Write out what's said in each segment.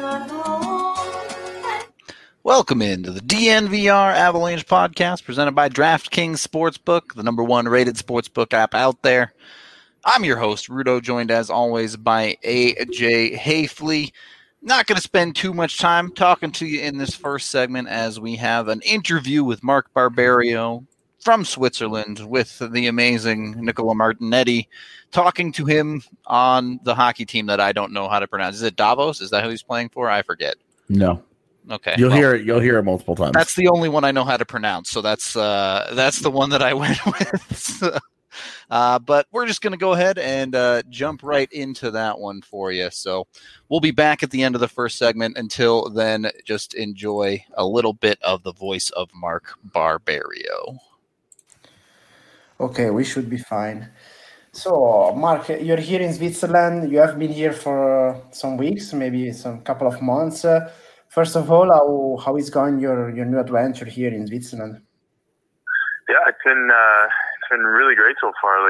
Welcome into the DNVR Avalanche podcast presented by DraftKings Sportsbook, the number one rated sportsbook app out there. I'm your host, Rudo, joined as always by AJ Hayfley. Not going to spend too much time talking to you in this first segment as we have an interview with Mark Barberio from Switzerland with the amazing Nicola Martinetti, talking to him on the hockey team that I don't know how to pronounce. Is it Davos? Is that who he's playing for? I forget. No. Okay. You'll hear it multiple times. That's the only one I know how to pronounce, so that's the one that I went with. But we're just going to go ahead and jump right into that one for you. So we'll be back at the end of the first segment. Until then, just enjoy a little bit of the voice of Mark Barberio. Okay, we should be fine. So, Mark, you're here in Switzerland. You have been here for some weeks, maybe some couple of months. First of all, how is going your new adventure here in Switzerland? Yeah, it's been really great so far.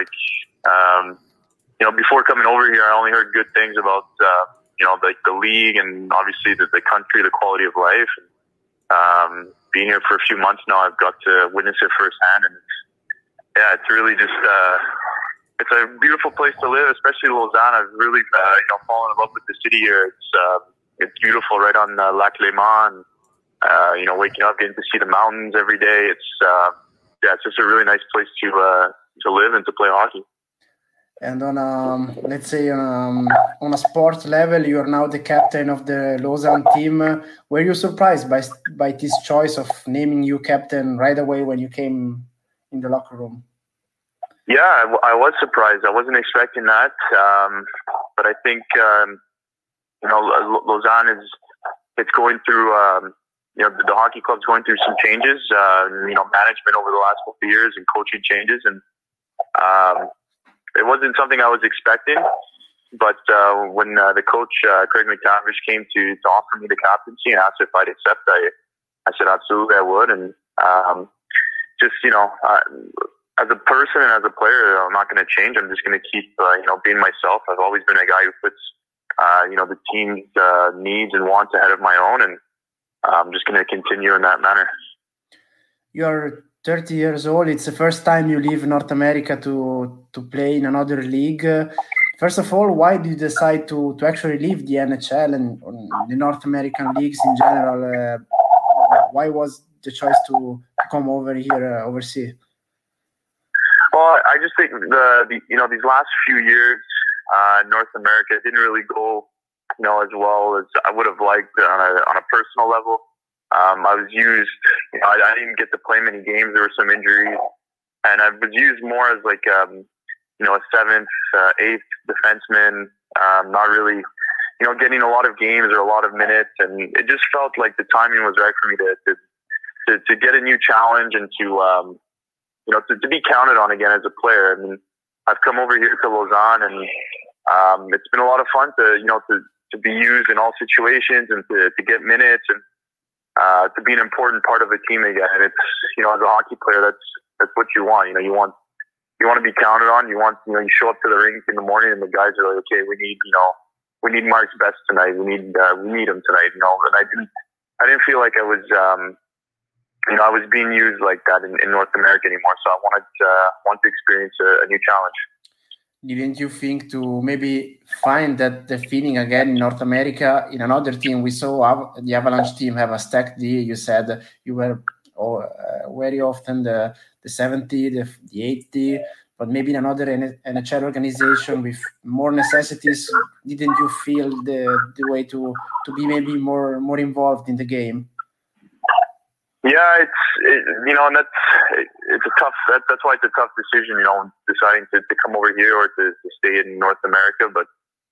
Before coming over here, I only heard good things about the league and obviously the country, the quality of life. Being here for a few months now, I've got to witness it firsthand, and it's really just it's a beautiful place to live, especially Lausanne. I've really fallen in love with the city here. It's beautiful right on Lac Léman. Waking up, getting to see the mountains every day. It's just a really nice place to live and to play hockey. And on let's say on a sport level, you are now the captain of the Lausanne team. Were you surprised by this choice of naming you captain right away when you came in the locker room? Yeah, I was surprised. I wasn't expecting that, but I think Lausanne it's going through. The hockey club's going through some changes. Management over the last couple of years and coaching changes, and it wasn't something I was expecting. But when the coach Craig McTavish came to offer me the captaincy and asked if I'd accept, I said absolutely I would. And as a person and as a player, I'm not going to change. I'm just going to keep being myself. I've always been a guy who puts the team's needs and wants ahead of my own, and I'm just going to continue in that manner. You're 30 years old. It's the first time you leave North America to play in another league. First of all, why did you decide to actually leave the NHL and the North American leagues in general? Why was the choice to come over here overseas? Well, I just think these last few years, North America didn't really go as well as I would have liked on a personal level. I was used. I didn't get to play many games. There were some injuries, and I was used more as a seventh, eighth defenseman. Not really, getting a lot of games or a lot of minutes, and it just felt like the timing was right for me to get a new challenge and to be counted on again as a player. I mean, I've come over here to Lausanne, and it's been a lot of fun to be used in all situations and to get minutes and to be an important part of a team again. And it's as a hockey player, that's what you want. You want to be counted on. You want you show up to the rink in the morning and the guys are like, okay, we need Mark's best tonight. We need him tonight. And I didn't feel like I was I was being used like that in North America anymore. So I want to experience a new challenge. Didn't you think to maybe find that the feeling again in North America in another team? We saw the Avalanche team have a stacked D. You said you were very often the 70, the 80, but maybe in another NHL organization with more necessities. Didn't you feel the way to be maybe more involved in the game? Yeah, and it's a tough. That's why it's a tough decision, deciding to come over here or to stay in North America. But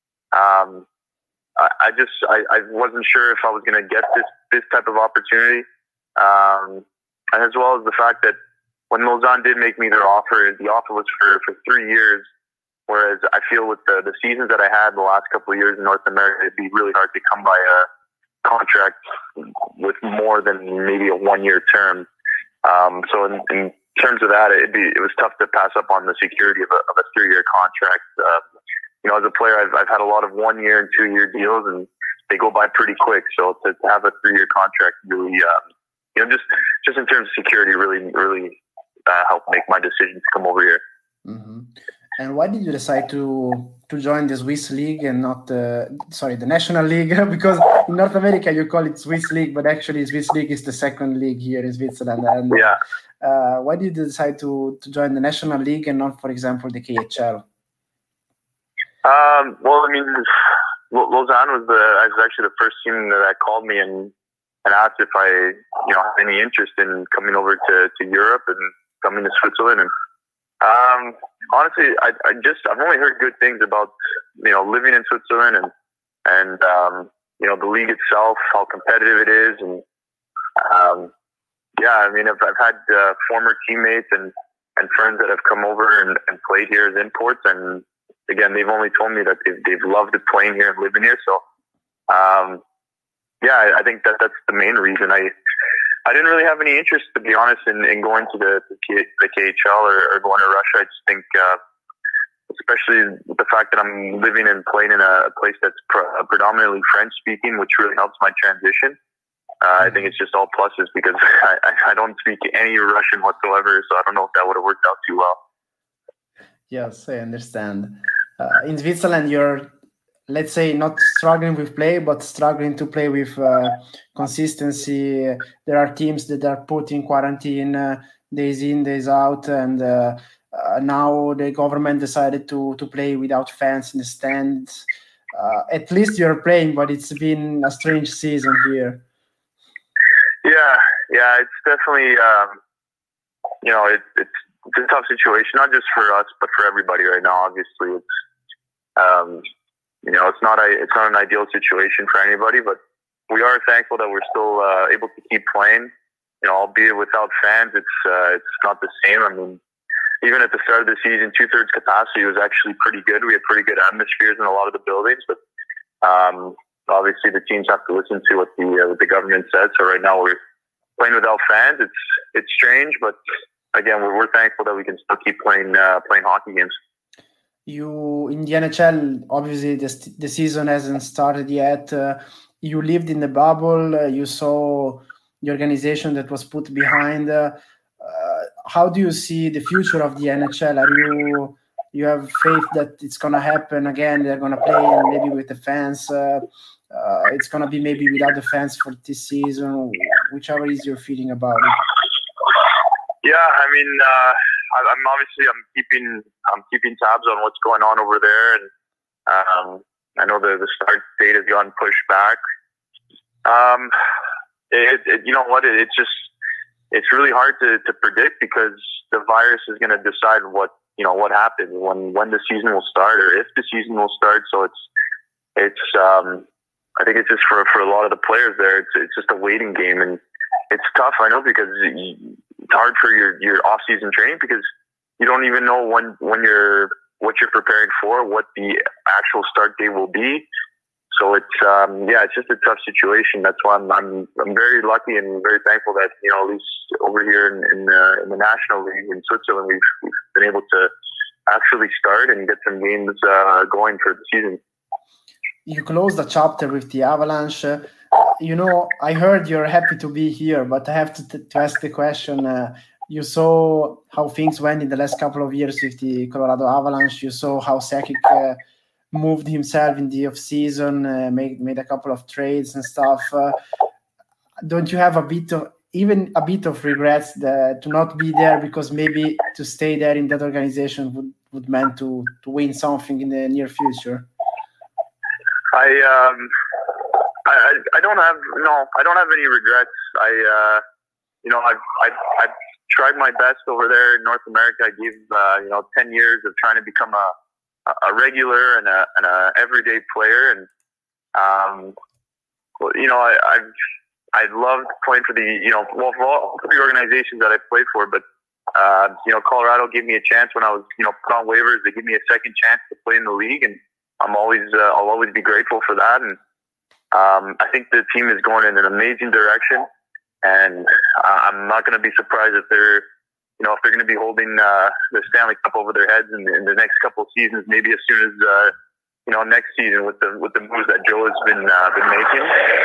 I wasn't sure if I was going to get this type of opportunity, and as well as the fact that when Lausanne did make me their offer, the offer was for 3 years. Whereas I feel with the seasons that I had the last couple of years in North America, it'd be really hard to come by a contract with more than maybe a 1-year term. So in terms of that, it was tough to pass up on the security of a 3-year contract. As a player, I've had a lot of 1-year and 2-year deals, and they go by pretty quick. So to have a 3-year contract really, just in terms of security, really helped make my decision to come over here. Mm-hmm. And why did you decide to join the Swiss League and not the National League? Because in North America you call it Swiss League, but actually Swiss League is the second league here in Switzerland. And why did you decide to join the National League and not, for example, the KHL? Well, I mean, Lausanne was actually the first team that called me and asked if I had any interest in coming over to Europe and coming to Switzerland. And honestly, I've only heard good things about living in Switzerland and the league itself, how competitive it is, and I mean, I've had former teammates and friends that have come over and played here as imports, and again, they've only told me that they've loved playing here and living here. So I think that's the main reason. I didn't really have any interest, to be honest, in going to the KHL or going to Russia. I just think, especially with the fact that I'm living and playing in a place that's predominantly French-speaking, which really helps my transition. I think it's just all pluses because I don't speak any Russian whatsoever, so I don't know if that would have worked out too well. Yes, I understand. In Switzerland, you're, let's say, not struggling with play, but struggling to play with consistency. There are teams that are put in quarantine days in, days out, and now the government decided to play without fans in the stands. At least you're playing, but it's been a strange season here. Yeah, it's definitely, it's a tough situation, not just for us, but for everybody right now. Obviously, it's not an ideal situation for anybody, but we are thankful that we're still able to keep playing. Albeit without fans, it's not the same. I mean, even at the start of the season, 2/3 capacity was actually pretty good. We had pretty good atmospheres in a lot of the buildings, but obviously the teams have to listen to what the government said. So right now we're playing without fans. It's strange, but again, we're thankful that we can still keep playing hockey games. You in the NHL, obviously the season hasn't started yet. You lived in the bubble. You saw the organization that was put behind. How do you see the future of the NHL? You have faith that it's gonna happen again? They're gonna play and maybe with the fans. It's gonna be maybe without the fans for this season. Whichever is your feeling about it. Yeah, I mean, I'm keeping tabs on what's going on over there, and I know the start date has gotten pushed back. You know what? It's really hard to predict because the virus is going to decide what happens when the season will start or if the season will start. So it's I think it's just for a lot of the players there. It's just a waiting game, and it's tough. I know because it's hard for your off-season training because you don't even know what you're preparing for, what the actual start date will be. So it's just a tough situation. That's why I'm very lucky and very thankful that at least over here in the National League in Switzerland we've been able to actually start and get some games going for the season. You closed the chapter with the Avalanche. I heard you're happy to be here, but I have to ask the question. You saw how things went in the last couple of years with the Colorado Avalanche. You saw how Sakic moved himself in the off-season, made a couple of trades and stuff. Don't you have a bit of regrets to not be there, because maybe to stay there in that organization would meant to win something in the near future? I don't have any regrets. I've tried my best over there in North America. I gave 10 years of trying to become a regular and a everyday player, and I loved playing for for all the organizations that I played for, but Colorado gave me a chance when I was put on waivers. They gave me a second chance to play in the league, and I'll always be grateful for that. And I think the team is going in an amazing direction, and I'm not going to be surprised if they're going to be holding the Stanley Cup over their heads in the next couple of seasons, maybe as soon as next season with the moves that Joe has been making.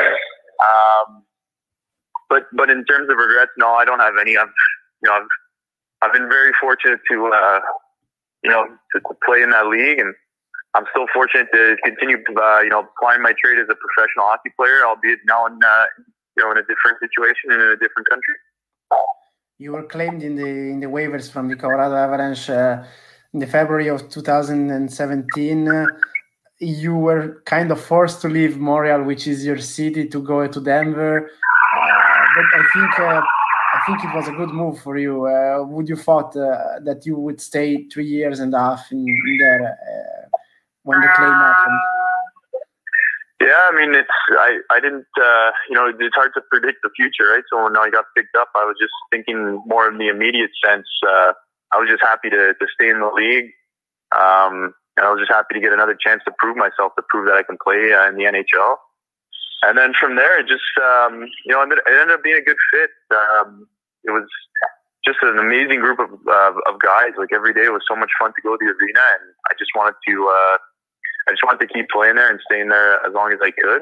But in terms of regrets, no, I don't have any. I've been very fortunate to play in that league, and I'm still fortunate to continue applying my trade as a professional hockey player, albeit now in a different situation and in a different country. You were claimed in the waivers from the Colorado Avalanche in the February of 2017. You were kind of forced to leave Montreal, which is your city, to go to Denver. But I think it was a good move for you. Would you thought that you would stay 3 years and a half in there when the claim happened? Yeah, I mean, I didn't, it's hard to predict the future, right? So when I got picked up, I was just thinking more in the immediate sense. I was just happy to stay in the league. And I was just happy to get another chance to prove myself, to prove that I can play in the NHL. And then from there, it just, it ended up being a good fit. It was just an amazing group of guys. Like every day was so much fun to go to the arena, and I just wanted to keep playing there and staying there as long as I could.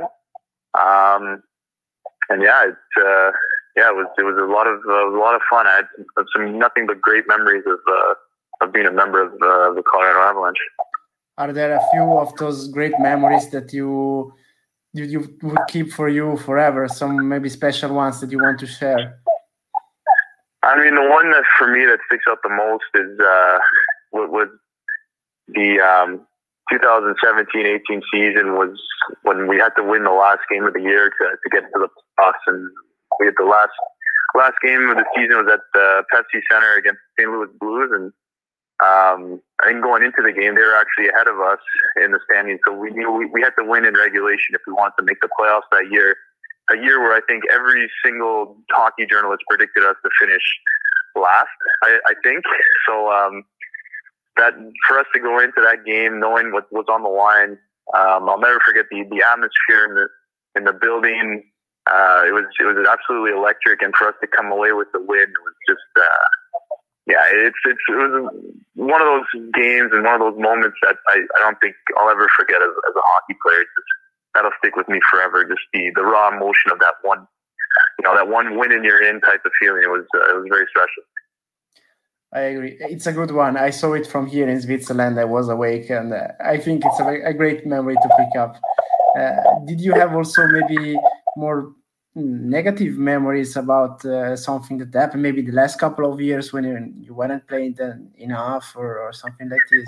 And yeah, it was a lot of fun. I had some nothing but great memories of being a member of the Colorado Avalanche. Are there a few of those great memories that you would keep for you forever? Some maybe special ones that you want to share? I mean, the one that for me that sticks out the most is was the 2017-18 season, was when we had to win the last game of the year to get to the playoffs, and we had the last game of the season was at the Pepsi Center against St. Louis Blues, and I think going into the game, they were actually ahead of us in the standings. So we knew we had to win in regulation if we wanted to make the playoffs that year. A year where I think every single hockey journalist predicted us to finish last, I think. So that for us to go into that game knowing what was on the line, I'll never forget the atmosphere in the building. It was absolutely electric, and for us to come away with the win, it was just it was one of those games and one of those moments that I don't think I'll ever forget as a hockey player. That'll stick with me forever. Just the raw emotion of that one, that one win and you're in type of feeling. It was very special. I agree. It's a good one. I saw it from here in Switzerland. I was awake, and I think it's a great memory to pick up. Did you have also maybe more negative memories about something that happened maybe the last couple of years when you weren't playing enough or something like this?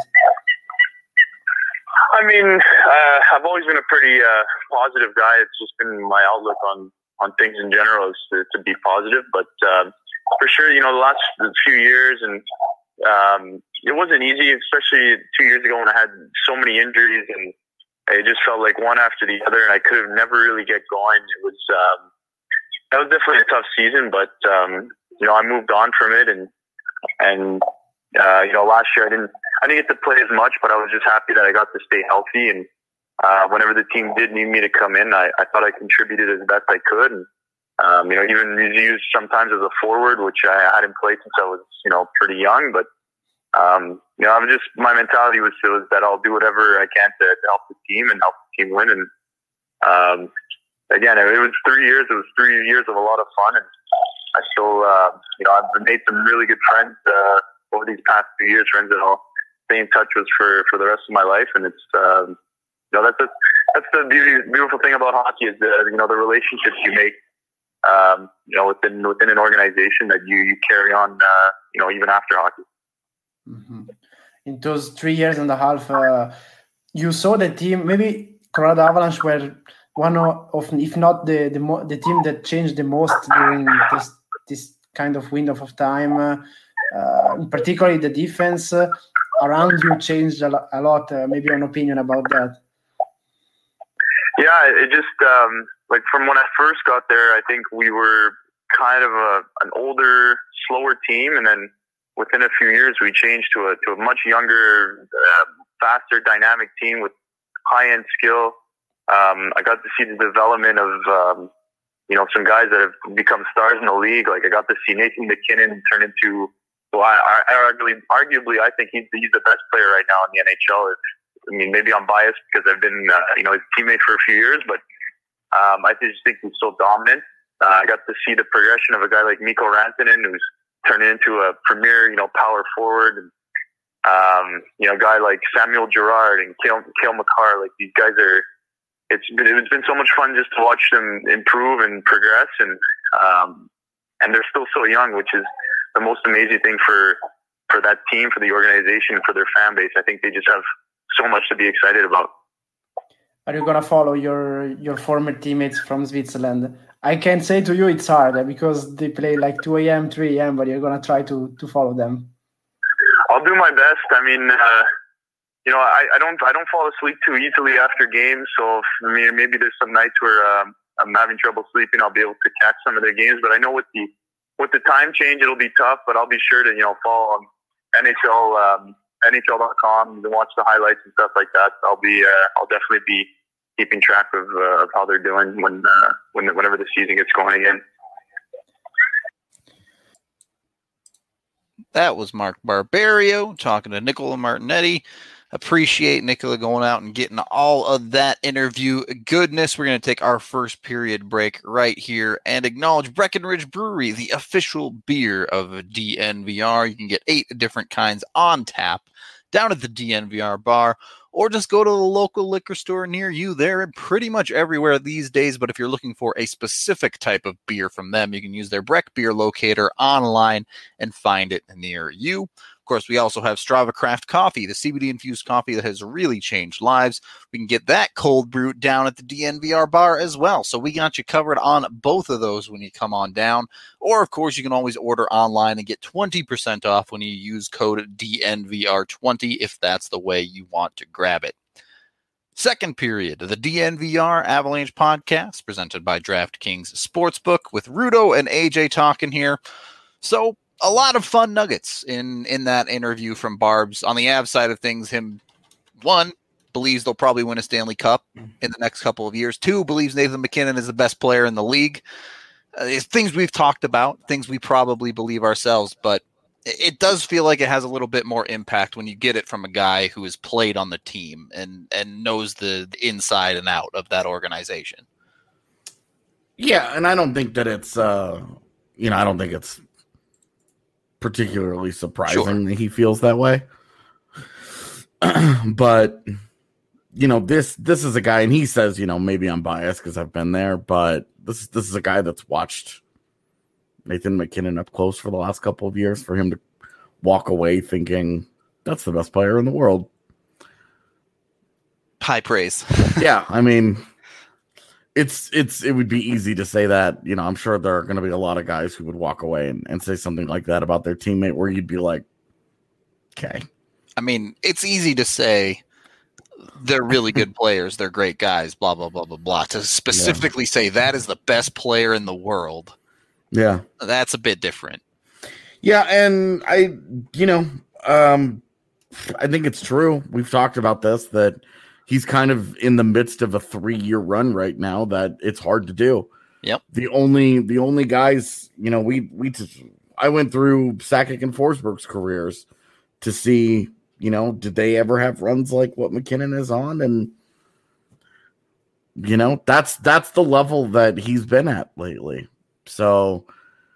I mean, I've always been a pretty positive guy. It's just been my outlook on things in general is to be positive. But for sure, the last few years, and it wasn't easy, especially 2 years ago when I had so many injuries, and it just felt like one after the other, and I could have never really get going. That was definitely a tough season, but I moved on from it, and last year I didn't get to play as much, but I was just happy that I got to stay healthy. And whenever the team did need me to come in, I thought I contributed as best I could. And, even used sometimes as a forward, which I hadn't played since I was, pretty young. But, my mentality was that I'll do whatever I can to help the team and help the team win. And, again, it was 3 years. It was 3 years of a lot of fun. And I still, I've made some really good friends over these past 2 years, friends that I'll stay in touch with for the rest of my life. And it's, that's the beautiful thing about hockey is the relationships you make, within an organization that you carry on, even after hockey. Mm-hmm. In those 3 years and a half, you saw the team, maybe Colorado Avalanche were one of, if not the team that changed the most during this kind of window of time, particularly the defense around you changed a lot. Maybe an opinion about that? Yeah, it just like from when I first got there, I think we were kind of an older, slower team, and then within a few years, we changed to a much younger, faster, dynamic team with high-end skill. I got to see the development of some guys that have become stars in the league. Like I got to see Nathan McKinnon turn into, arguably, I think he's the best player right now in the NHL. If I mean, maybe I'm biased because I've been, his teammate for a few years, but I just think he's so dominant. I got to see the progression of a guy like Mikko Rantanen, who's turning into a premier, power forward. And, a guy like Samuel Girard and Cale Makar, like these guys are. It's been so much fun just to watch them improve and progress, and they're still so young, which is the most amazing thing for that team, for the organization, for their fan base. I think they just have so much to be excited about. Are you gonna follow your former teammates from Switzerland? I can say to you it's hard because they play like 2 a.m., 3 a.m., but you're gonna try to follow them. I'll do my best. I mean, I don't fall asleep too easily after games. So maybe there's some nights where I'm having trouble sleeping. I'll be able to catch some of their games. But I know with the time change, it'll be tough. But I'll be sure to follow NHL.com and watch the highlights and stuff like that. I'll definitely be keeping track of how they're doing whenever the season gets going again. That was Mark Barberio talking to Nicola Martinetti. Appreciate Nicola going out and getting all of that interview goodness. We're going to take our first period break right here and acknowledge Breckenridge Brewery, the official beer of DNVR. You can get 8 different kinds on tap down at the DNVR bar, or just go to the local liquor store near you. They're pretty much everywhere these days, but if you're looking for a specific type of beer from them, you can use their Breck Beer Locator online and find it near you. Of course, we also have Strava Craft Coffee, the CBD-infused coffee that has really changed lives. We can get that cold brew down at the DNVR bar as well. So we got you covered on both of those when you come on down. Or, of course, you can always order online and get 20% off when you use code DNVR20 if that's the way you want to grab it. Second period of the DNVR Avalanche podcast presented by DraftKings Sportsbook with Rudo and AJ talking here. So, a lot of fun nuggets in that interview from Barbs. On the Avs side of things, believes they'll probably win a Stanley Cup in the next couple of years. 2, believes Nathan MacKinnon is the best player in the league. Things we've talked about, things we probably believe ourselves, but it does feel like it has a little bit more impact when you get it from a guy who has played on the team and knows the inside and out of that organization. Yeah, and I don't think that it's, I don't think it's particularly surprising that he feels that way. But this is a guy, and he says, maybe I'm biased because I've been there, but this is a guy that's watched Nathan MacKinnon up close for the last couple of years. For him to walk away thinking that's the best player in the world, high praise. Yeah, I mean, it would be easy to say that. I'm sure there are going to be a lot of guys who would walk away and say something like that about their teammate, where you'd be like, okay. I mean, it's easy to say they're really good players, they're great guys, blah, blah, blah, blah, blah. To specifically say that is the best player in the world, yeah, that's a bit different. Yeah, and I think it's true. We've talked about this, that he's kind of in the midst of a 3-year run right now that it's hard to do. Yep. The only guys, I went through Sakic and Forsberg's careers to see, did they ever have runs like what MacKinnon is on? And, that's the level that he's been at lately. So,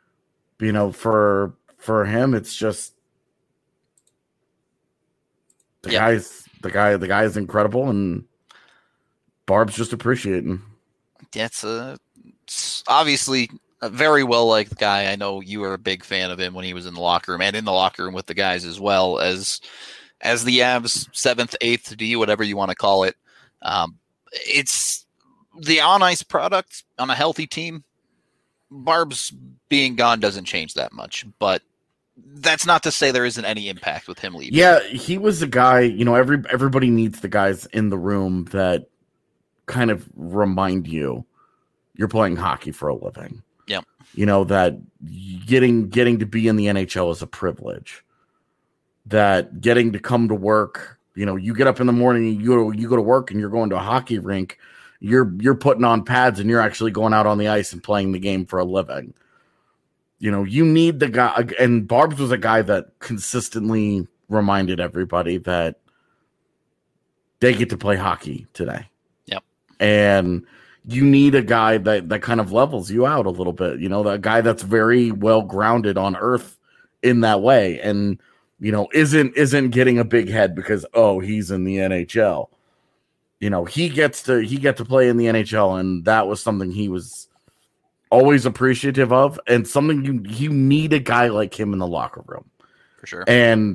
for him, it's just the guy is incredible, and Barb's just appreciating. That's obviously a very well-liked guy. I know you were a big fan of him when he was in the locker room and in the locker room with the guys as well as the Avs 7th, 8th D, whatever you want to call it. It's the on-ice product on a healthy team. Barb's being gone doesn't change that much, but that's not to say there isn't any impact with him leaving. Yeah, he was a guy, everybody needs the guys in the room that kind of remind you you're playing hockey for a living. Yep. That getting to be in the NHL is a privilege. That getting to come to work, you get up in the morning, you go to work and you're going to a hockey rink, you're putting on pads and you're actually going out on the ice and playing the game for a living. You need the guy, and Barbs was a guy that consistently reminded everybody that they get to play hockey today. Yep. And you need a guy that kind of levels you out a little bit, that guy that's very well grounded on earth in that way. And, isn't getting a big head because, he's in the NHL. He get to play in the NHL, and that was something he was always appreciative of, and something you need a guy like him in the locker room. For sure. And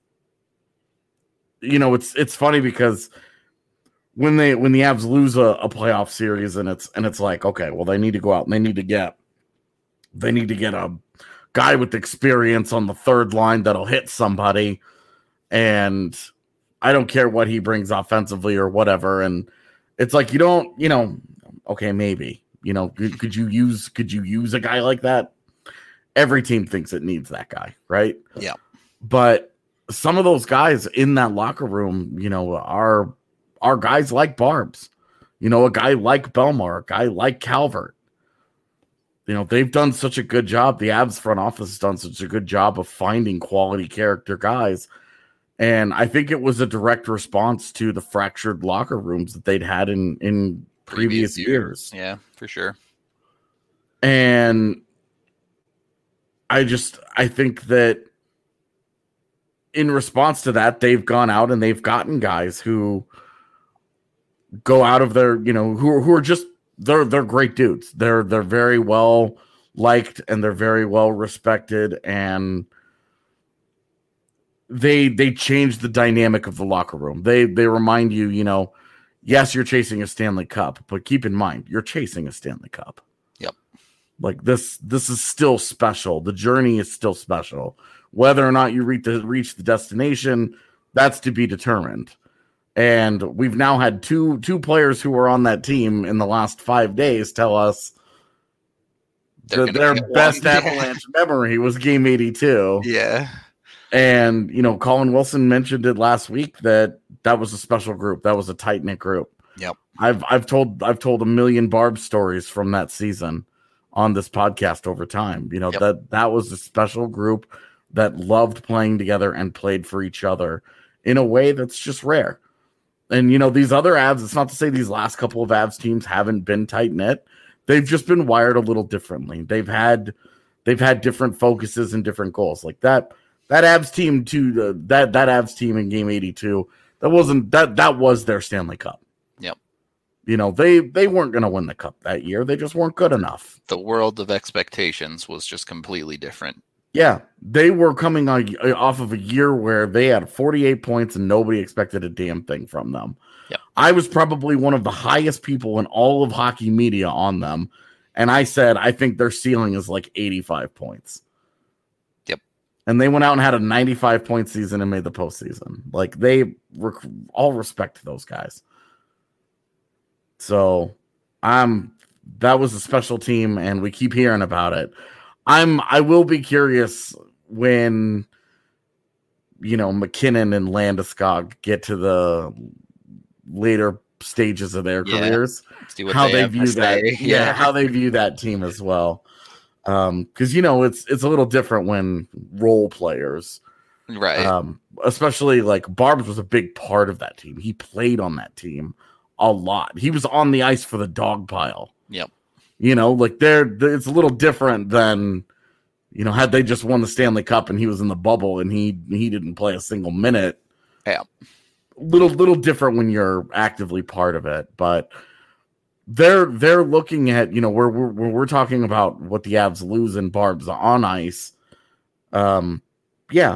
it's funny because when the Avs lose a playoff series and it's like, okay, well, they need to go out and they need to get a guy with experience on the third line that'll hit somebody, and I don't care what he brings offensively or whatever. And it's like, you don't, okay, maybe, could you use a guy like that? Every team thinks it needs that guy, right? Yeah. But some of those guys in that locker room, are guys like Barbs, a guy like Belmar, a guy like Calvert. They've done such a good job. The Avs front office has done such a good job of finding quality character guys. And I think it was a direct response to the fractured locker rooms that they'd had in previous years. Yeah, for sure. And I think that in response to that, they've gone out and they've gotten guys who go out of their, who are just, they're great dudes. They're very well liked and they're very well respected, and they change the dynamic of the locker room. They remind you, yes, you're chasing a Stanley Cup, but keep in mind, you're chasing a Stanley Cup. Yep. Like this is still special. The journey is still special. Whether or not you reach the destination, that's to be determined. And we've now had two players who were on that team in the last 5 days tell us that their best Avalanche memory was Game 82. Yeah. And, Colin Wilson mentioned it last week that was a special group. That was a tight-knit group. Yep. I've told a million Barb stories from that season on this podcast over time. That was a special group that loved playing together and played for each other in a way that's just rare. And, these other Avs, it's not to say these last couple of Avs teams haven't been tight-knit. They've just been wired a little differently. They've had different focuses and different goals. Like that Avs team too, that Avs team in Game 82, that was their Stanley Cup. Yep. They weren't going to win the cup that year. They just weren't good enough. The world of expectations was just completely different. Yeah, they were coming off of a year where they had 48 points and nobody expected a damn thing from them. Yep. I was probably one of the highest people in all of hockey media on them, and I said I think their ceiling is like 85 points. Yep. And they went out and had a 95-point season and made the postseason. Like, they were all respect to those guys. So, that was a special team, and we keep hearing about it. I will be curious when, McKinnon and Landeskog get to the later stages of their careers, how they view that. Yeah, how they view that team as well. Because it's a little different when role players, right? Especially like Barbs was a big part of that team. He played on that team a lot. He was on the ice for the dog pile. Yep. It's a little different than, had they just won the Stanley Cup and he was in the bubble and he didn't play a single minute. Yeah. Little different when you're actively part of it, but they're looking at, where we're talking about what the Avs lose in Barbs on ice. Yeah,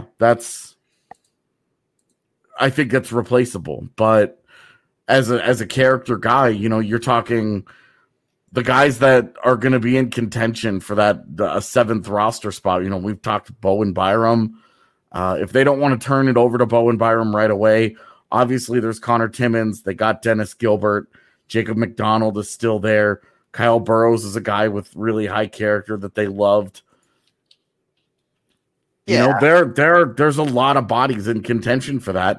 I think that's replaceable, but as a character guy, you're talking the guys that are going to be in contention for a seventh roster spot. We've talked Bowen Byram. If they don't want to turn it over to Bowen Byram right away, obviously there's Connor Timmins. They got Dennis Gilbert. Jacob McDonald is still there. Kyle Burrows is a guy with really high character that they loved. Yeah. There's a lot of bodies in contention for that.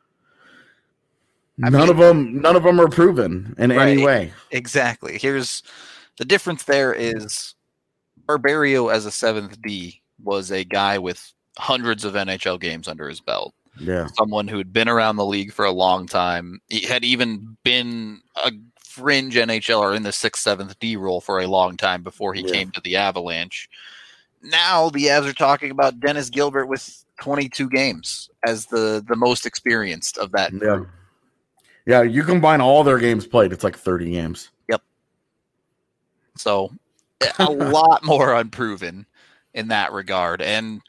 None of them are proven in any way. Exactly. Here's the difference. There is Barberio as a 7th D was a guy with hundreds of NHL games under his belt. Yeah. Someone who had been around the league for a long time. He had even been a fringe NHL or in the 6th, 7th D role for a long time before he came to the Avalanche. Now the Avs are talking about Dennis Gilbert with 22 games as the most experienced of that group. Yeah, you combine all their games played, it's like 30 games. Yep. So a lot more unproven in that regard. And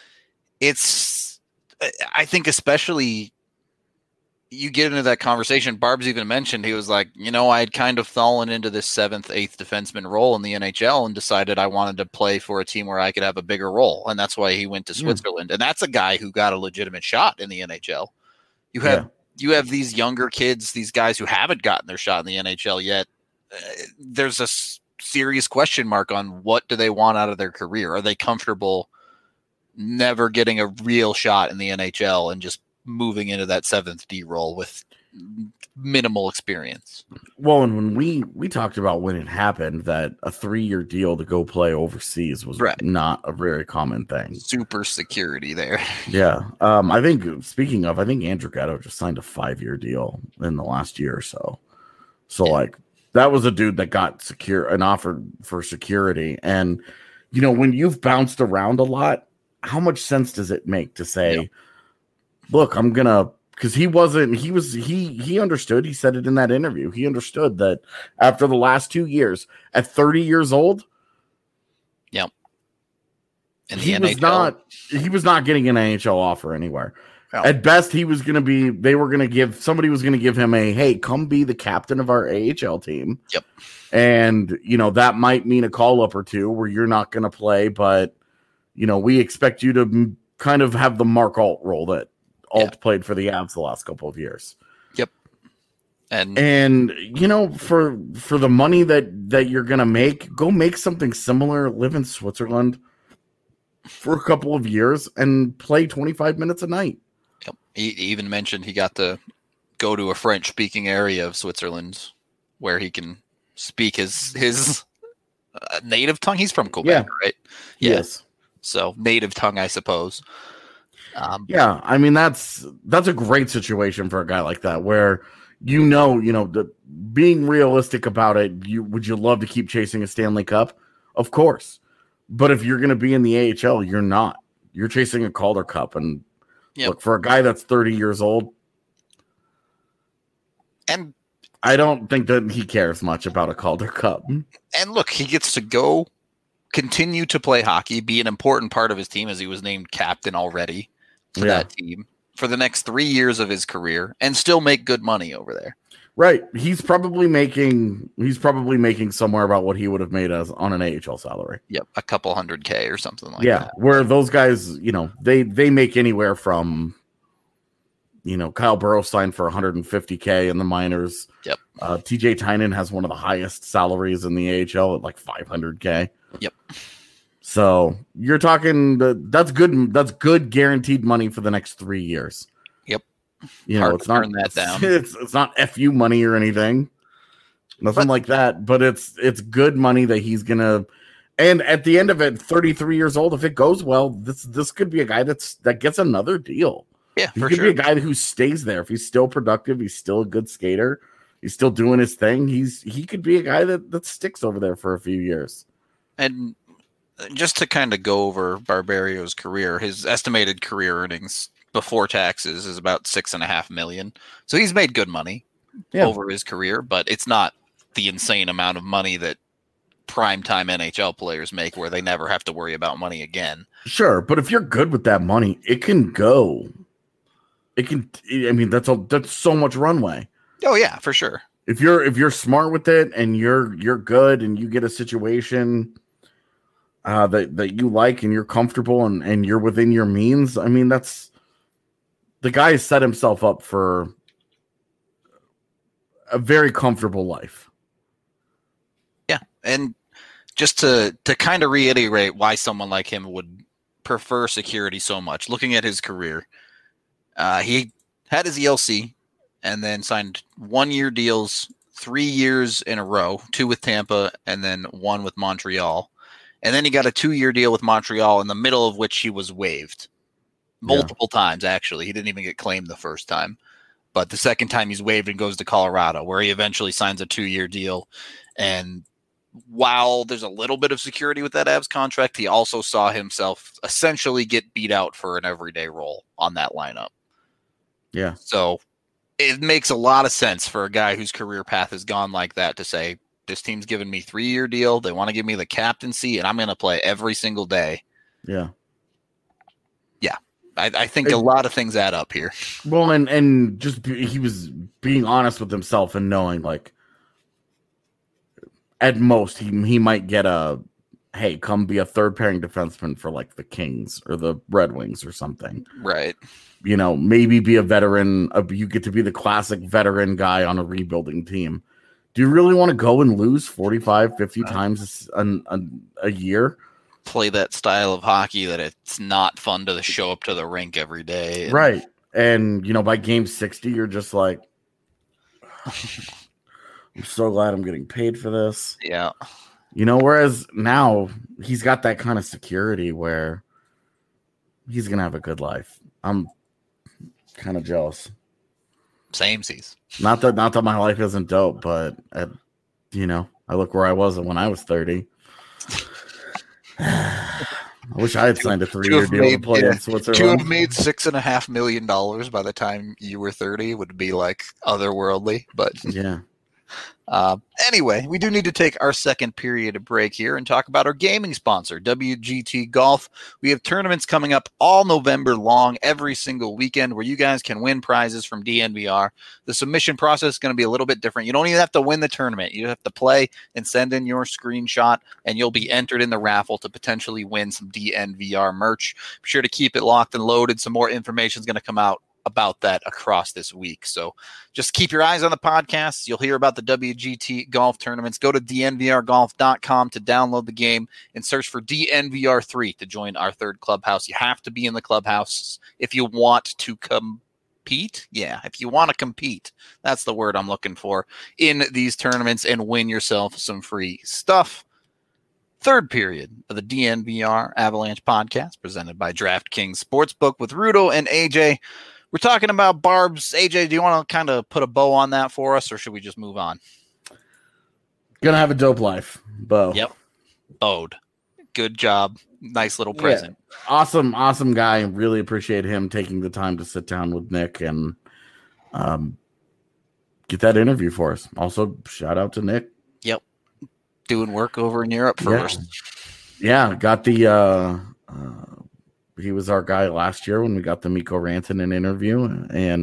I think especially you get into that conversation. Barb's even mentioned, he was like, I'd kind of fallen into this 7th, 8th defenseman role in the NHL and decided I wanted to play for a team where I could have a bigger role. And that's why he went to Switzerland. And that's a guy who got a legitimate shot in the NHL. You have these younger kids, these guys who haven't gotten their shot in the NHL yet. There's a serious question mark on what do they want out of their career. Are they comfortable never getting a real shot in the NHL and just moving into that 7th D role with minimal experience? Well, and when we talked about when it happened that a 3-year deal to go play overseas was not a very common thing. Super security there. Yeah. I think Andrew Gatto just signed a 5-year deal in the last year or so. So like that was a dude that got an offer for security. And when you've bounced around a lot, how much sense does it make to say, look, I'm gonna, because he understood. He said it in that interview. He understood that after the last 2 years, at 30 years old, and he was not getting an NHL offer anywhere. No. At best, somebody was going to give him hey, come be the captain of our AHL team. Yep. And that might mean a call up or two where you're not going to play, but we expect you to kind of have the Mark Alt role that Alt played for the Avs the last couple of years. Yep. And for the money that you're going to make, go make something similar, live in Switzerland for a couple of years and play 25 minutes a night. Yep. He even mentioned he got to go to a French speaking area of Switzerland where he can speak his native tongue. He's from Quebec, right? Yes. So native tongue, I suppose. I mean, that's a great situation for a guy like that where, being realistic about it, would you love to keep chasing a Stanley Cup? Of course. But if you're going to be in the AHL, you're not. You're chasing a Calder Cup. And look, for a guy that's 30 years old, and I don't think that he cares much about a Calder Cup. And look, he gets to go continue to play hockey, be an important part of his team as he was named captain already for that team for the next 3 years of his career and still make good money over there. Right. He's probably making somewhere about what he would have made as on an AHL salary. Yep. A couple $100K or something like that. Yeah. Where those guys, they make anywhere from, Kyle Burrows signed for $150K in the minors. Yep. TJ Tynan has one of the highest salaries in the AHL at like $500K. Yep. So you're talking that's good guaranteed money for the next 3 years. Yep. It's not that down. It's not FU money or anything. Nothing like that, but it's good money that he's gonna. And at the end of it, 33 years old, if it goes well, this could be a guy that gets another deal. Yeah, he could be a guy who stays there if he's still productive. He's still a good skater. He's still doing his thing. He could be a guy that sticks over there for a few years. And just to kind of go over Barberio's career, his estimated career earnings before taxes is about $6.5 million. So he's made good money over his career, but it's not the insane amount of money that primetime NHL players make where they never have to worry about money again. Sure, but if you're good with that money, it can go. That's so much runway. Oh yeah, for sure. If you're smart with it and you're good and you get a situation that you like and you're comfortable and you're within your means, that's the guy has set himself up for a very comfortable life. Yeah, and just to kind of reiterate why someone like him would prefer security so much, looking at his career, he had his ELC and then signed 1-year deals 3 years in a row, 2 with Tampa and then 1 with Montreal. And then he got a 2-year deal with Montreal in the middle of which he was waived. multiple times, actually. He didn't even get claimed the first time. But the second time he's waived and goes to Colorado, where he eventually signs a 2-year deal. And while there's a little bit of security with that Avs contract, he also saw himself essentially get beat out for an everyday role on that lineup. Yeah. So it makes a lot of sense for a guy whose career path has gone like that to say, this team's giving me 3-year deal. They want to give me the captaincy, and I'm going to play every single day. Yeah. Yeah. I think a lot of things add up here. Well, and just he was being honest with himself and knowing, like, at most he might get a, hey, come be a third pairing defenseman for like the Kings or the Red Wings or something. Right. You know, maybe be a veteran. You get to be the classic veteran guy on a rebuilding team. Do you really want to go and lose 45, 50 times a year? Play that style of hockey that it's not fun to show up to the rink every day. Right. And, you know, by game 60, you're just like, I'm so glad I'm getting paid for this. Yeah. You know, whereas now he's got that kind of security where he's going to have a good life. I'm kind of jealous. Samesies. Not that my life isn't dope, but you know, I look where I was when I was 30. I wish I had signed a 3-year deal to play in Switzerland. To have made $6.5 million by the time you were 30 would be like otherworldly, but yeah. Anyway, we do need to take our second period break here and talk about our gaming sponsor, WGT Golf. We have tournaments coming up all November long, every single weekend, where you guys can win prizes from DNVR. The submission process is going to be a little bit different. You don't even have to win the tournament. You have to play and send in your screenshot, and you'll be entered in the raffle to potentially win some DNVR merch. Be sure to keep it locked and loaded. Some more information is going to come out about that across this week. So just keep your eyes on the podcasts. You'll hear about the WGT golf tournaments. Go to dnvrgolf.com to download the game and search for DNVR3 to join our third clubhouse. You have to be in the clubhouse if you want to compete. Yeah, if you want to compete, that's the word I'm looking for in these tournaments and win yourself some free stuff. Third period of the DNVR Avalanche podcast presented by DraftKings Sportsbook with Rudo and AJ. We're talking about Barbs. AJ, do you want to kind of put a bow on that for us, or should we just move on? Gonna have a dope life, Bo. Yep. Bowed. Good job. Nice little present. Yeah. Awesome guy. Really appreciate him taking the time to sit down with Nick and get that interview for us. Also, shout out to Nick. Yep. Doing work over in Europe first. Yeah, got the he was our guy last year when we got the Mikko Rantanen interview, and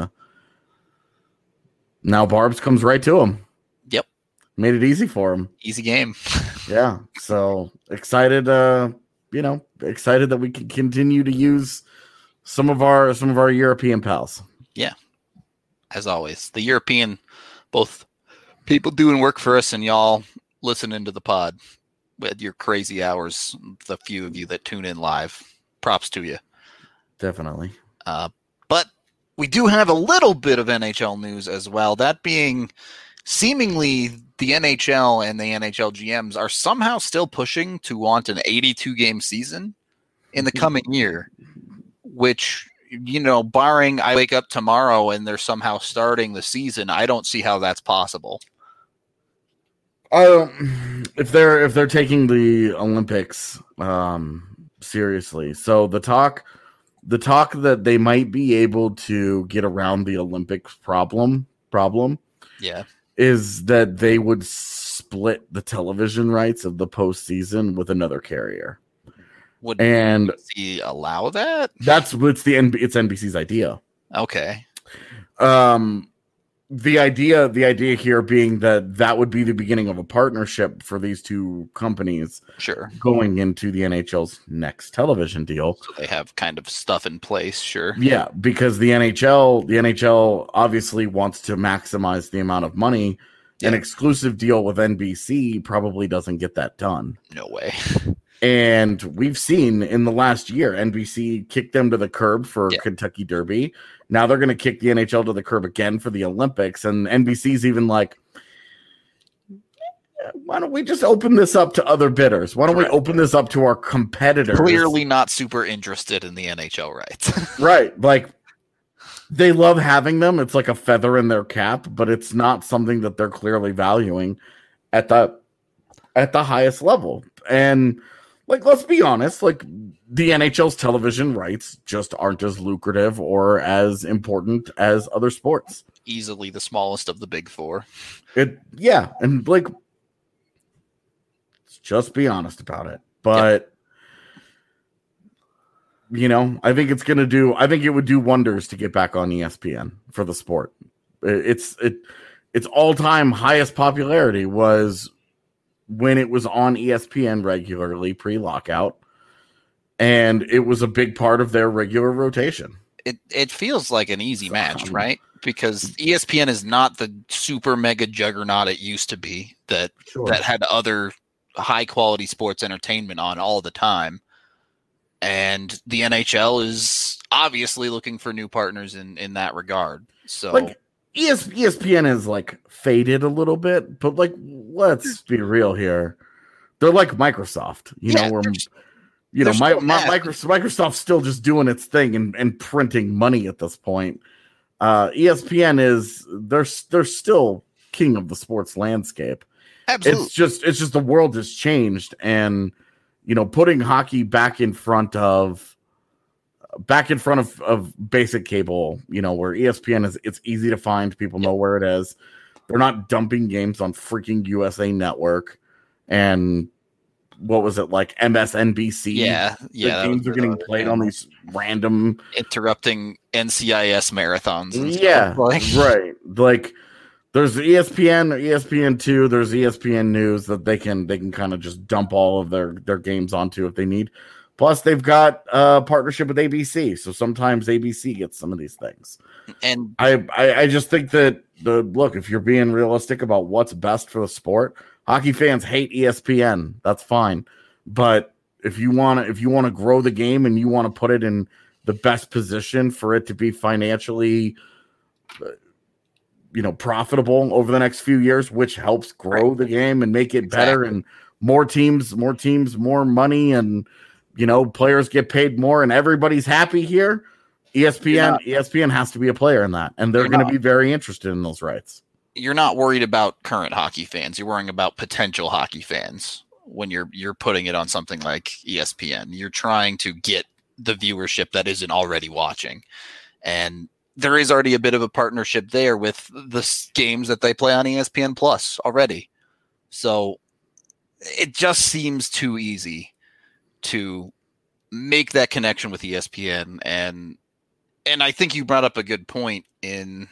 now Barbs comes right to him. Yep. Made it easy for him. Easy game. Yeah. So excited, excited that we can continue to use some of our European pals. Yeah. As always, the European, both people doing work for us and y'all listening to the pod with your crazy hours, the few of you that tune in live. Props to you. Definitely. But we do have a little bit of NHL news as well. That being seemingly the NHL and the NHL GMs are somehow still pushing to want an 82-game season in the coming year, which, you know, barring I wake up tomorrow and they're somehow starting the season, I don't see how that's possible. If they're taking the Olympics seriously, so the talk that they might be able to get around the Olympics problem, yeah, is that they would split the television rights of the postseason with another carrier. Would NBC allow that? It's NBC's idea. Okay. The idea here being that would be the beginning of a partnership for these two companies. Sure. Going into the NHL's next television deal. So they have kind of stuff in place. Sure. Yeah, because the NHL obviously wants to maximize the amount of money. Yeah. An exclusive deal with NBC probably doesn't get that done. No way. And we've seen in the last year, NBC kicked them to the curb for Kentucky Derby. Now they're going to kick the NHL to the curb again for the Olympics. And NBC's even like, Why don't we just open this up to other bidders? Why don't we open this up to our competitors? Clearly not super interested in the NHL rights. Right. Like, they love having them. It's like a feather in their cap, but it's not something that they're clearly valuing at the highest level. And like, let's be honest, like the NHL's television rights just aren't as lucrative or as important as other sports. Easily the smallest of the big four. And like, let's just be honest about it. But you know, I think it would do wonders to get back on ESPN for the sport. Its all-time highest popularity was when it was on ESPN regularly pre-lockout, and it was a big part of their regular rotation. It feels like an easy match, right? Because ESPN is not the super mega juggernaut it used to be that had other high-quality sports entertainment on all the time. And the NHL is obviously looking for new partners in that regard. So like ESPN is like faded a little bit, but like, let's be real here. They're like Microsoft, Microsoft's still just doing its thing and printing money at this point. ESPN they're still king of the sports landscape. Absolutely. It's just the world has changed, and putting hockey back in front of basic cable, where ESPN it's easy to find, people know where it is. They're not dumping games on freaking USA Network and what was it, like MSNBC? Yeah. The games are getting played on these random interrupting NCIS marathons. Right. Like there's ESPN, ESPN2, there's ESPN News that they can kind of just dump all of their games onto if they need. Plus, they've got a partnership with ABC, so sometimes ABC gets some of these things. And I just think that if you're being realistic about what's best for the sport, hockey fans hate ESPN. That's fine, but if you want to grow the game and you want to put it in the best position for it to be financially profitable over the next few years, which helps grow the game and make it better, and more teams, more money, and players get paid more, and everybody's happy here. ESPN has to be a player in that, and they're going to be very interested in those rights. You're not worried about current hockey fans. You're worrying about potential hockey fans when you're putting it on something like ESPN. You're trying to get the viewership that isn't already watching, and there is already a bit of a partnership there with the games that they play on ESPN Plus already. So it just seems too easy to make that connection with ESPN. And I think you brought up a good point in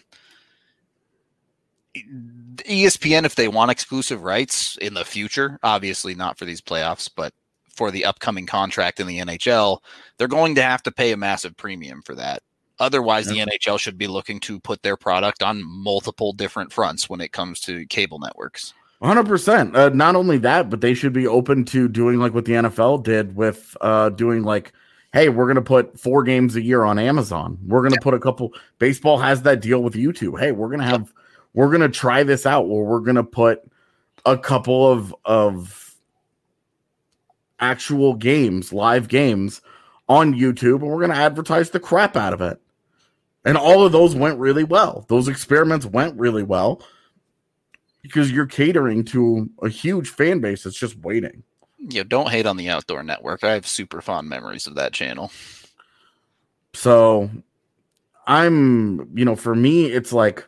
ESPN. If they want exclusive rights in the future, obviously not for these playoffs, but for the upcoming contract in the NHL, they're going to have to pay a massive premium for that. Otherwise, the NHL should be looking to put their product on multiple different fronts when it comes to cable networks. 100%. Not only that, but they should be open to doing like what the NFL did with doing like, hey, we're going to put 4 games a year on Amazon. We're going to put a couple. Baseball has that deal with YouTube. Hey, we're going to try this out where we're going to put a couple of actual games, live games on YouTube, and we're going to advertise the crap out of it. And all of those went really well. Those experiments went really well because you're catering to a huge fan base that's just waiting. Don't hate on the Outdoor Network. I have super fond memories of that channel. So for me, it's like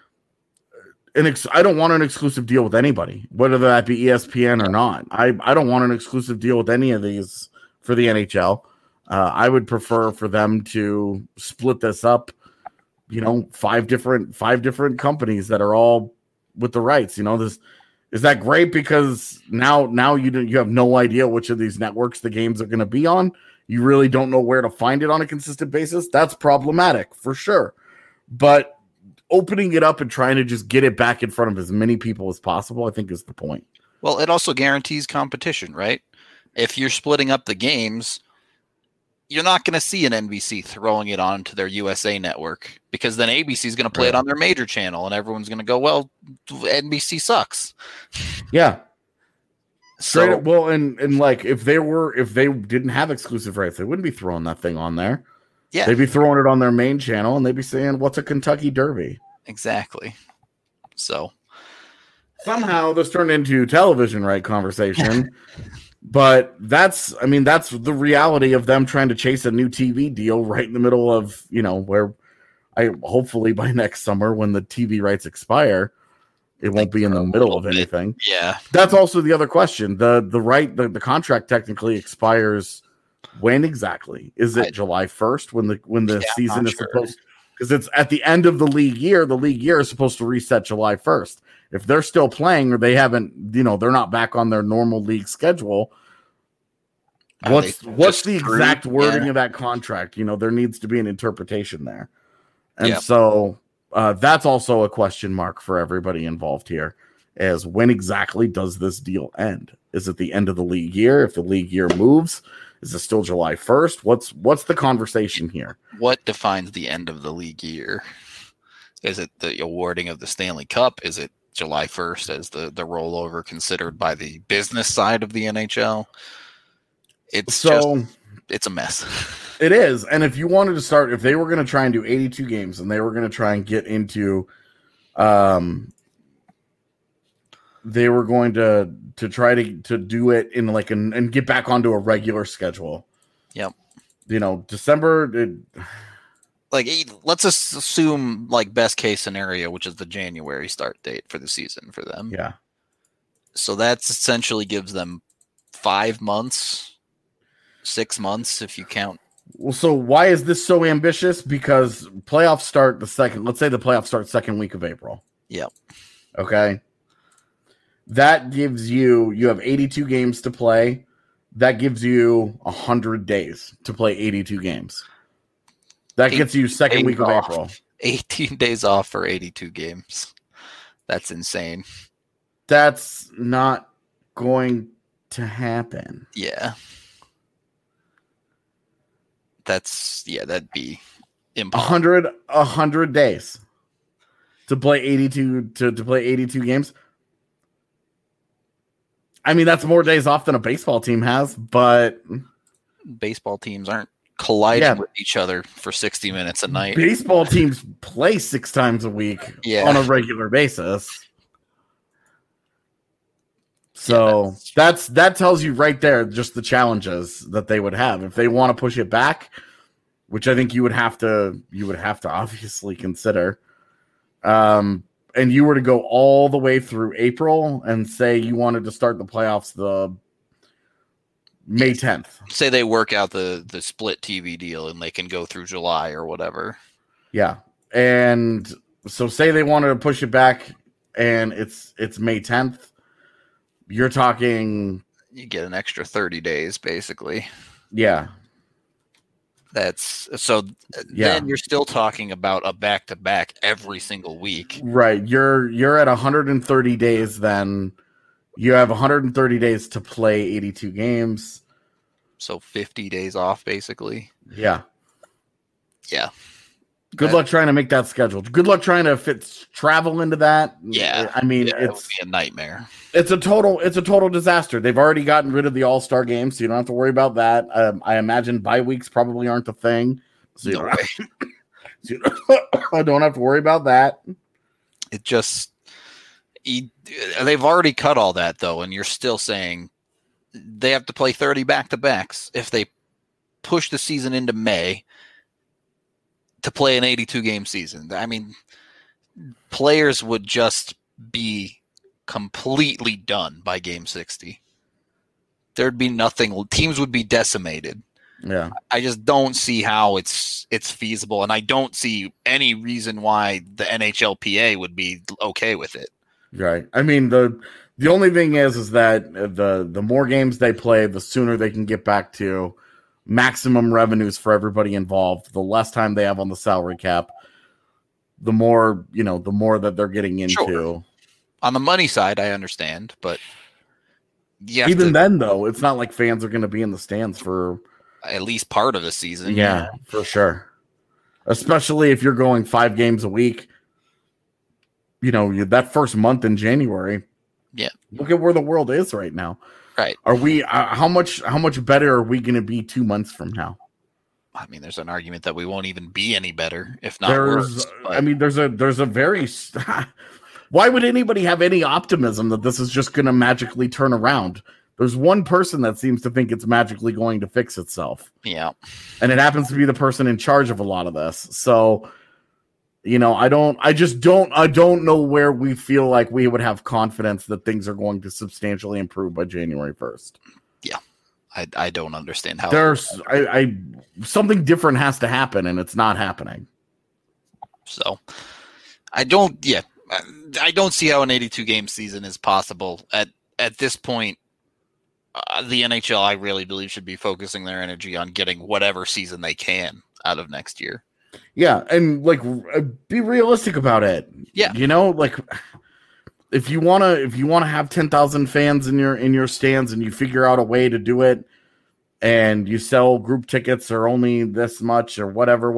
I don't want an exclusive deal with anybody, whether that be ESPN or not. I don't want an exclusive deal with any of these for the NHL. I would prefer for them to split this up, 5 different companies that are all with the rights. This is that great because now you have no idea which of these networks the games are going to be on. You really don't know where to find it on a consistent basis. That's problematic for sure. But opening it up and trying to just get it back in front of as many people as possible, I think, is the point. Well, it also guarantees competition, right? If you're splitting up the games, you're not going to see an NBC throwing it onto their USA network because then ABC is going to play it on their major channel and everyone's going to go, well, NBC sucks. Yeah. Straight So up, well, and like if they didn't have exclusive rights, they wouldn't be throwing that thing on there. yeah, They'd be throwing it on their main channel, and they'd be saying, "What's a Kentucky Derby?" exactly. So Somehow this turned into television right conversation. But that's the reality of them trying to chase a new TV deal right in the middle of, where hopefully by next summer when the TV rights expire, it won't be in the middle of anything. Yeah. That's also the other question. The contract technically expires when exactly? Is it July 1st when the season is supposed, because it's at the end of the league year is supposed to reset July 1st. If they're still playing or they haven't, they're not back on their normal league schedule, what's the exact wording of that contract? There needs to be an interpretation there. And so that's also a question mark for everybody involved here, is when exactly does this deal end? Is it the end of the league year? If the league year moves, is it still July 1st? What's the conversation here? What defines the end of the league year? Is it the awarding of the Stanley Cup? Is it July 1st as the rollover considered by the business side of the NHL? It's a mess. It is. And if you wanted to start, if they were going to try and do 82 games and they were going to try and get into, they were going to try to do it in and get back onto a regular schedule. Yep. December. Let's assume best case scenario, which is the January start date for the season for them. Yeah. So that's essentially gives them 5 months, 6 months if you count. Well, so why is this so ambitious? Because playoffs start let's say the playoffs start second week of April. Yep. Okay. That gives you have 82 games to play. That gives you 100 days to play 82 games. That gets you second week of April. 18 days off for 82 games. That's insane. That's not going to happen. Yeah. That'd be impossible. 100 days to play 82 to play 82 games. I mean, that's more days off than a baseball team has, but baseball teams aren't colliding with each other for 60 minutes a night. Baseball teams play 6 times a week on a regular basis. So that tells you right there just the challenges that they would have if they want to push it back, which I think you would have to obviously consider. And you were to go all the way through April and say you wanted to start the playoffs the May 10th. Say they work out the split TV deal and they can go through July or whatever. Yeah. And so say they wanted to push it back and it's May 10th. You're talking, you get an extra 30 days basically. Yeah. Then you're still talking about a back-to-back every single week. Right. You're at 130 days then. You have 130 days to play 82 games. So 50 days off, basically. Yeah. Yeah. Good luck trying to make that schedule. Good luck trying to fit travel into that. Yeah. I mean, it would be a nightmare. It's a total disaster. They've already gotten rid of the All-Star game, so you don't have to worry about that. I imagine bye weeks probably aren't a thing. So I don't have to worry about that. It just... They've already cut all that, though, and you're still saying they have to play 30 back-to-backs. If they push the season into May to play an 82-game season, I mean, players would just be completely done by Game 60. There'd be nothing. Teams would be decimated. Yeah, I just don't see how it's feasible, and I don't see any reason why the NHLPA would be okay with it. Right. I mean, the only thing is that the more games they play, the sooner they can get back to maximum revenues for everybody involved. The less time they have on the salary cap, the more that they're getting into. Sure. On the money side, I understand, but then, though, it's not like fans are going to be in the stands for at least part of the season. Yeah, for sure. Especially if you're going 5 games a week. That first month in January. Yeah. Look at where the world is right now. Right. Are we? How much better are we going to be 2 months from now? I mean, there's an argument that we won't even be any better, if not worse. I mean, there's a very. Why would anybody have any optimism that this is just going to magically turn around? There's one person that seems to think it's magically going to fix itself. Yeah. And it happens to be the person in charge of a lot of this. So, I don't know where we feel like we would have confidence that things are going to substantially improve by January 1st. Yeah. I don't understand how something different has to happen, and it's not happening. So I don't see how an 82 game season is possible at this point. The NHL, I really believe, should be focusing their energy on getting whatever season they can out of next year. Yeah, and be realistic about it. Yeah, if you wanna have 10,000 fans in your stands, and you figure out a way to do it, and you sell group tickets or only this much or whatever,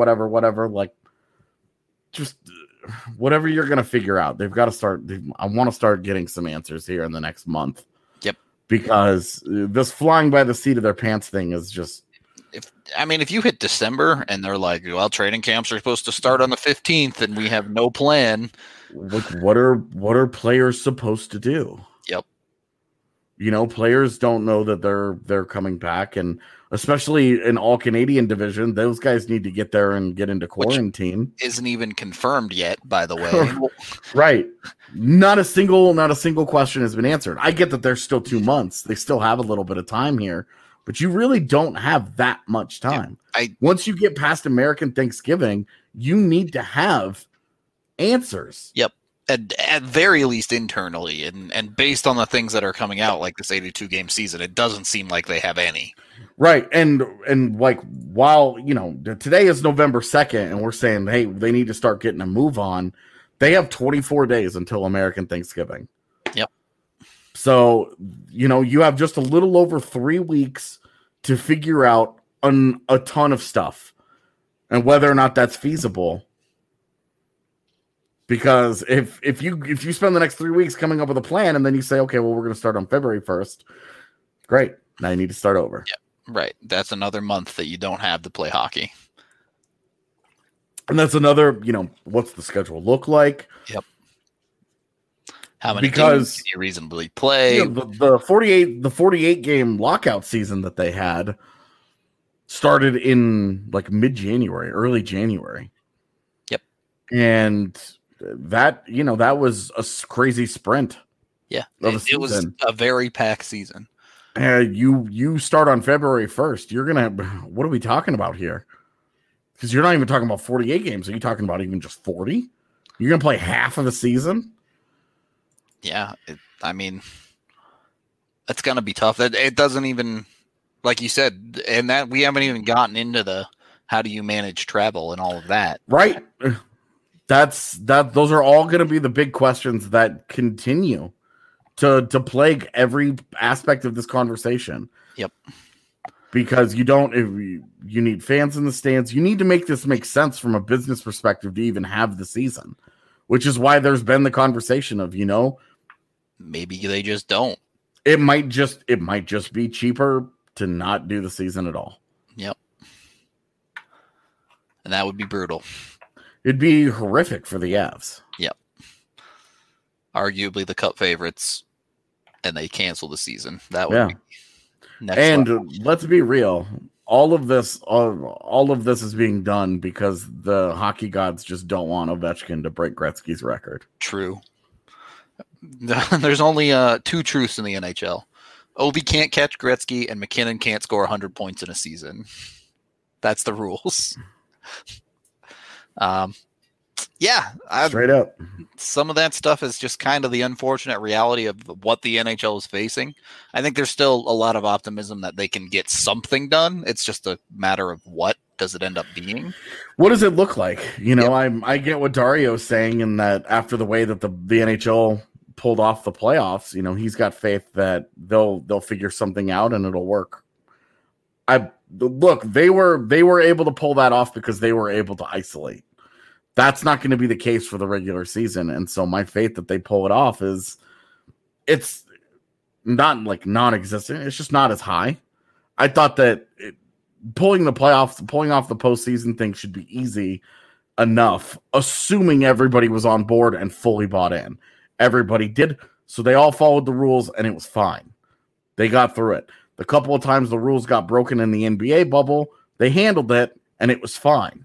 just whatever you're gonna figure out. They've got to start. I want to start getting some answers here in the next month. Yep. Because this flying by the seat of their pants thing is just. If you hit December and they're like, well, training camps are supposed to start on the 15th and we have no plan. What are players supposed to do? Yep. Players don't know that they're coming back, and especially in all Canadian division, those guys need to get there and get into quarantine. Which isn't even confirmed yet, by the way. Right. Not a single question has been answered. I get that there's still 2 months. They still have a little bit of time here. But you really don't have that much time. Once you get past American Thanksgiving, you need to have answers. Yep. At very least internally. And based on the things that are coming out, like this 82 game season, it doesn't seem like they have any. Right. And while, today is November 2nd and we're saying, hey, they need to start getting a move on. They have 24 days until American Thanksgiving. Yep. So, you have just a little over 3 weeks to figure out a ton of stuff and whether or not that's feasible. Because if you spend the next 3 weeks coming up with a plan and then you say, okay, well, we're going to start on February 1st. Great. Now you need to start over. Yeah, right. That's another month that you don't have to play hockey. And that's another, what's the schedule look like? Yep. How many games can you reasonably play? The 48 game lockout season that they had started in mid-January, early January. Yep. And that was a crazy sprint. Yeah. It was a very packed season. You start on February 1st. What are we talking about here? Because you're not even talking about 48 games. Are you talking about even just 40? You're going to play half of the season? Yeah, it's going to be tough. It doesn't even, like you said, and that we haven't even gotten into the how do you manage travel and all of that. Right. Those are all going to be the big questions that continue to plague every aspect of this conversation. Yep. Because you need fans in the stands. You need to make this make sense from a business perspective to even have the season, which is why there's been the conversation of, maybe they just don't. It might just be cheaper to not do the season at all. Yep. And that would be brutal. It'd be horrific for the Avs. Yep. Arguably the Cup favorites, and they cancel the season. That would be next level. Let's be real. All of this is being done because the hockey gods just don't want Ovechkin to break Gretzky's record. True. There's only 2 truths in the NHL. Ovi can't catch Gretzky, and McKinnon can't score 100 points in a season. That's the rules. Straight up. Some of that stuff is just kind of the unfortunate reality of what the NHL is facing. I think there's still a lot of optimism that they can get something done. It's just a matter of what does it end up being. What does it look like? I get what Dario's saying in that after the way that the NHL pulled off the playoffs, he's got faith that they'll figure something out and it'll work. They were able to pull that off because they were able to isolate. That's not going to be the case for the regular season. And so my faith that they pull it off it's not like non-existent. It's just not as high. I thought that pulling off the postseason thing should be easy enough, assuming everybody was on board and fully bought in. Everybody did, so they all followed the rules, and it was fine. They got through it. The couple of times the rules got broken in the NBA bubble, they handled it, and it was fine.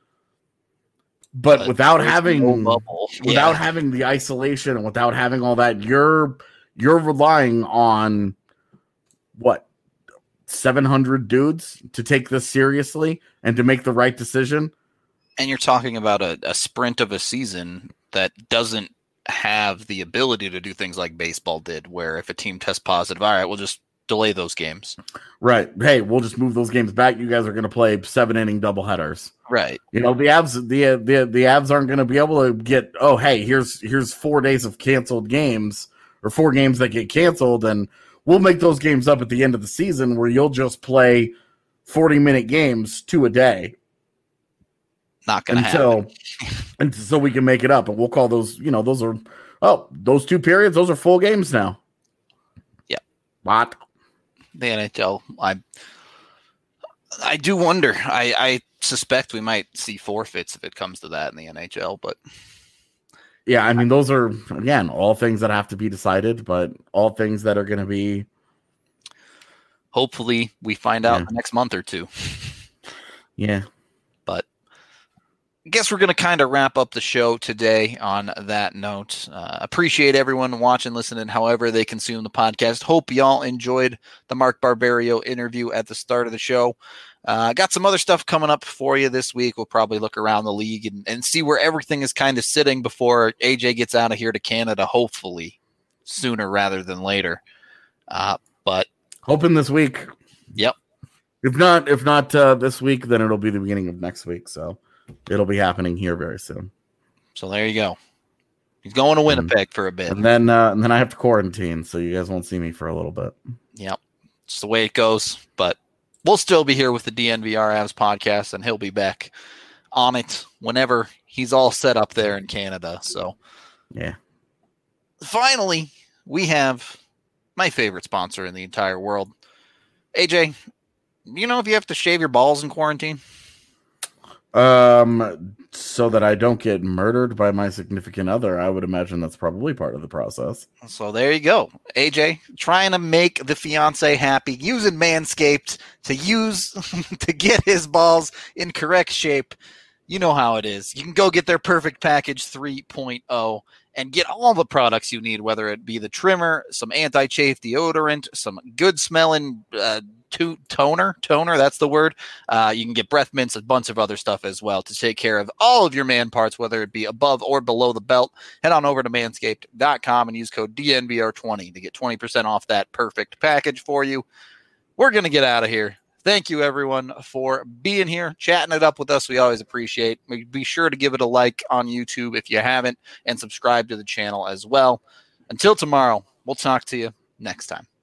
But without having having the isolation and without having all that, you're relying on what, 700 dudes to take this seriously and to make the right decision. And you're talking about a sprint of a season that doesn't have the ability to do things like baseball did, where if a team tests positive, all right, we'll just delay those games. Right. Hey, we'll just move those games back. You guys are going to play 7-inning doubleheaders. Right. You know, the Avs aren't going to be able to get, oh, hey, here's 4 days of canceled games or 4 games that get canceled, and we'll make those games up at the end of the season where you'll just play 40-minute games 2 a day. Not going to happen. And so we can make it up, and we'll call those, those 2 periods, those are full games now. Yeah. What? The NHL, I do wonder. I suspect we might see forfeits if it comes to that in the NHL, but yeah, I mean, those are, again, all things that have to be decided, but all things that are going to be. Hopefully we find out in the next month or 2. Yeah. But I guess we're going to kind of wrap up the show today on that note. Appreciate everyone watching, listening, however they consume the podcast. Hope y'all enjoyed the Mark Barberio interview at the start of the show. Got some other stuff coming up for you this week. We'll probably look around the league and see where everything is kind of sitting before AJ gets out of here to Canada, hopefully sooner rather than later. But hoping this week. Yep. If not this week, then it'll be the beginning of next week. So it'll be happening here very soon. So there you go. He's going to Winnipeg for a bit. And then I have to quarantine, so you guys won't see me for a little bit. Yep. It's the way it goes. But we'll still be here with the DNVR Avs podcast, and he'll be back on it whenever he's all set up there in Canada. So yeah. Finally, we have my favorite sponsor in the entire world. AJ, you know if you have to shave your balls in quarantine? So that I don't get murdered by my significant other, I would imagine that's probably part of the process. So there you go. AJ, trying to make the fiance happy, using Manscaped to get his balls in correct shape. You know how it is. You can go get their Perfect Package 3.0 and get all the products you need, whether it be the trimmer, some anti-chafe deodorant, some good-smelling toner, that's the word. You can get breath mints, a bunch of other stuff as well to take care of all of your man parts, whether it be above or below the belt. Head on over to manscaped.com and use code DNVR20 to get 20% off that perfect package for you. We're going to get out of here. Thank you, everyone, for being here, chatting it up with us. We always appreciate. Be sure to give it a like on YouTube if you haven't, and subscribe to the channel as well. Until tomorrow, we'll talk to you next time.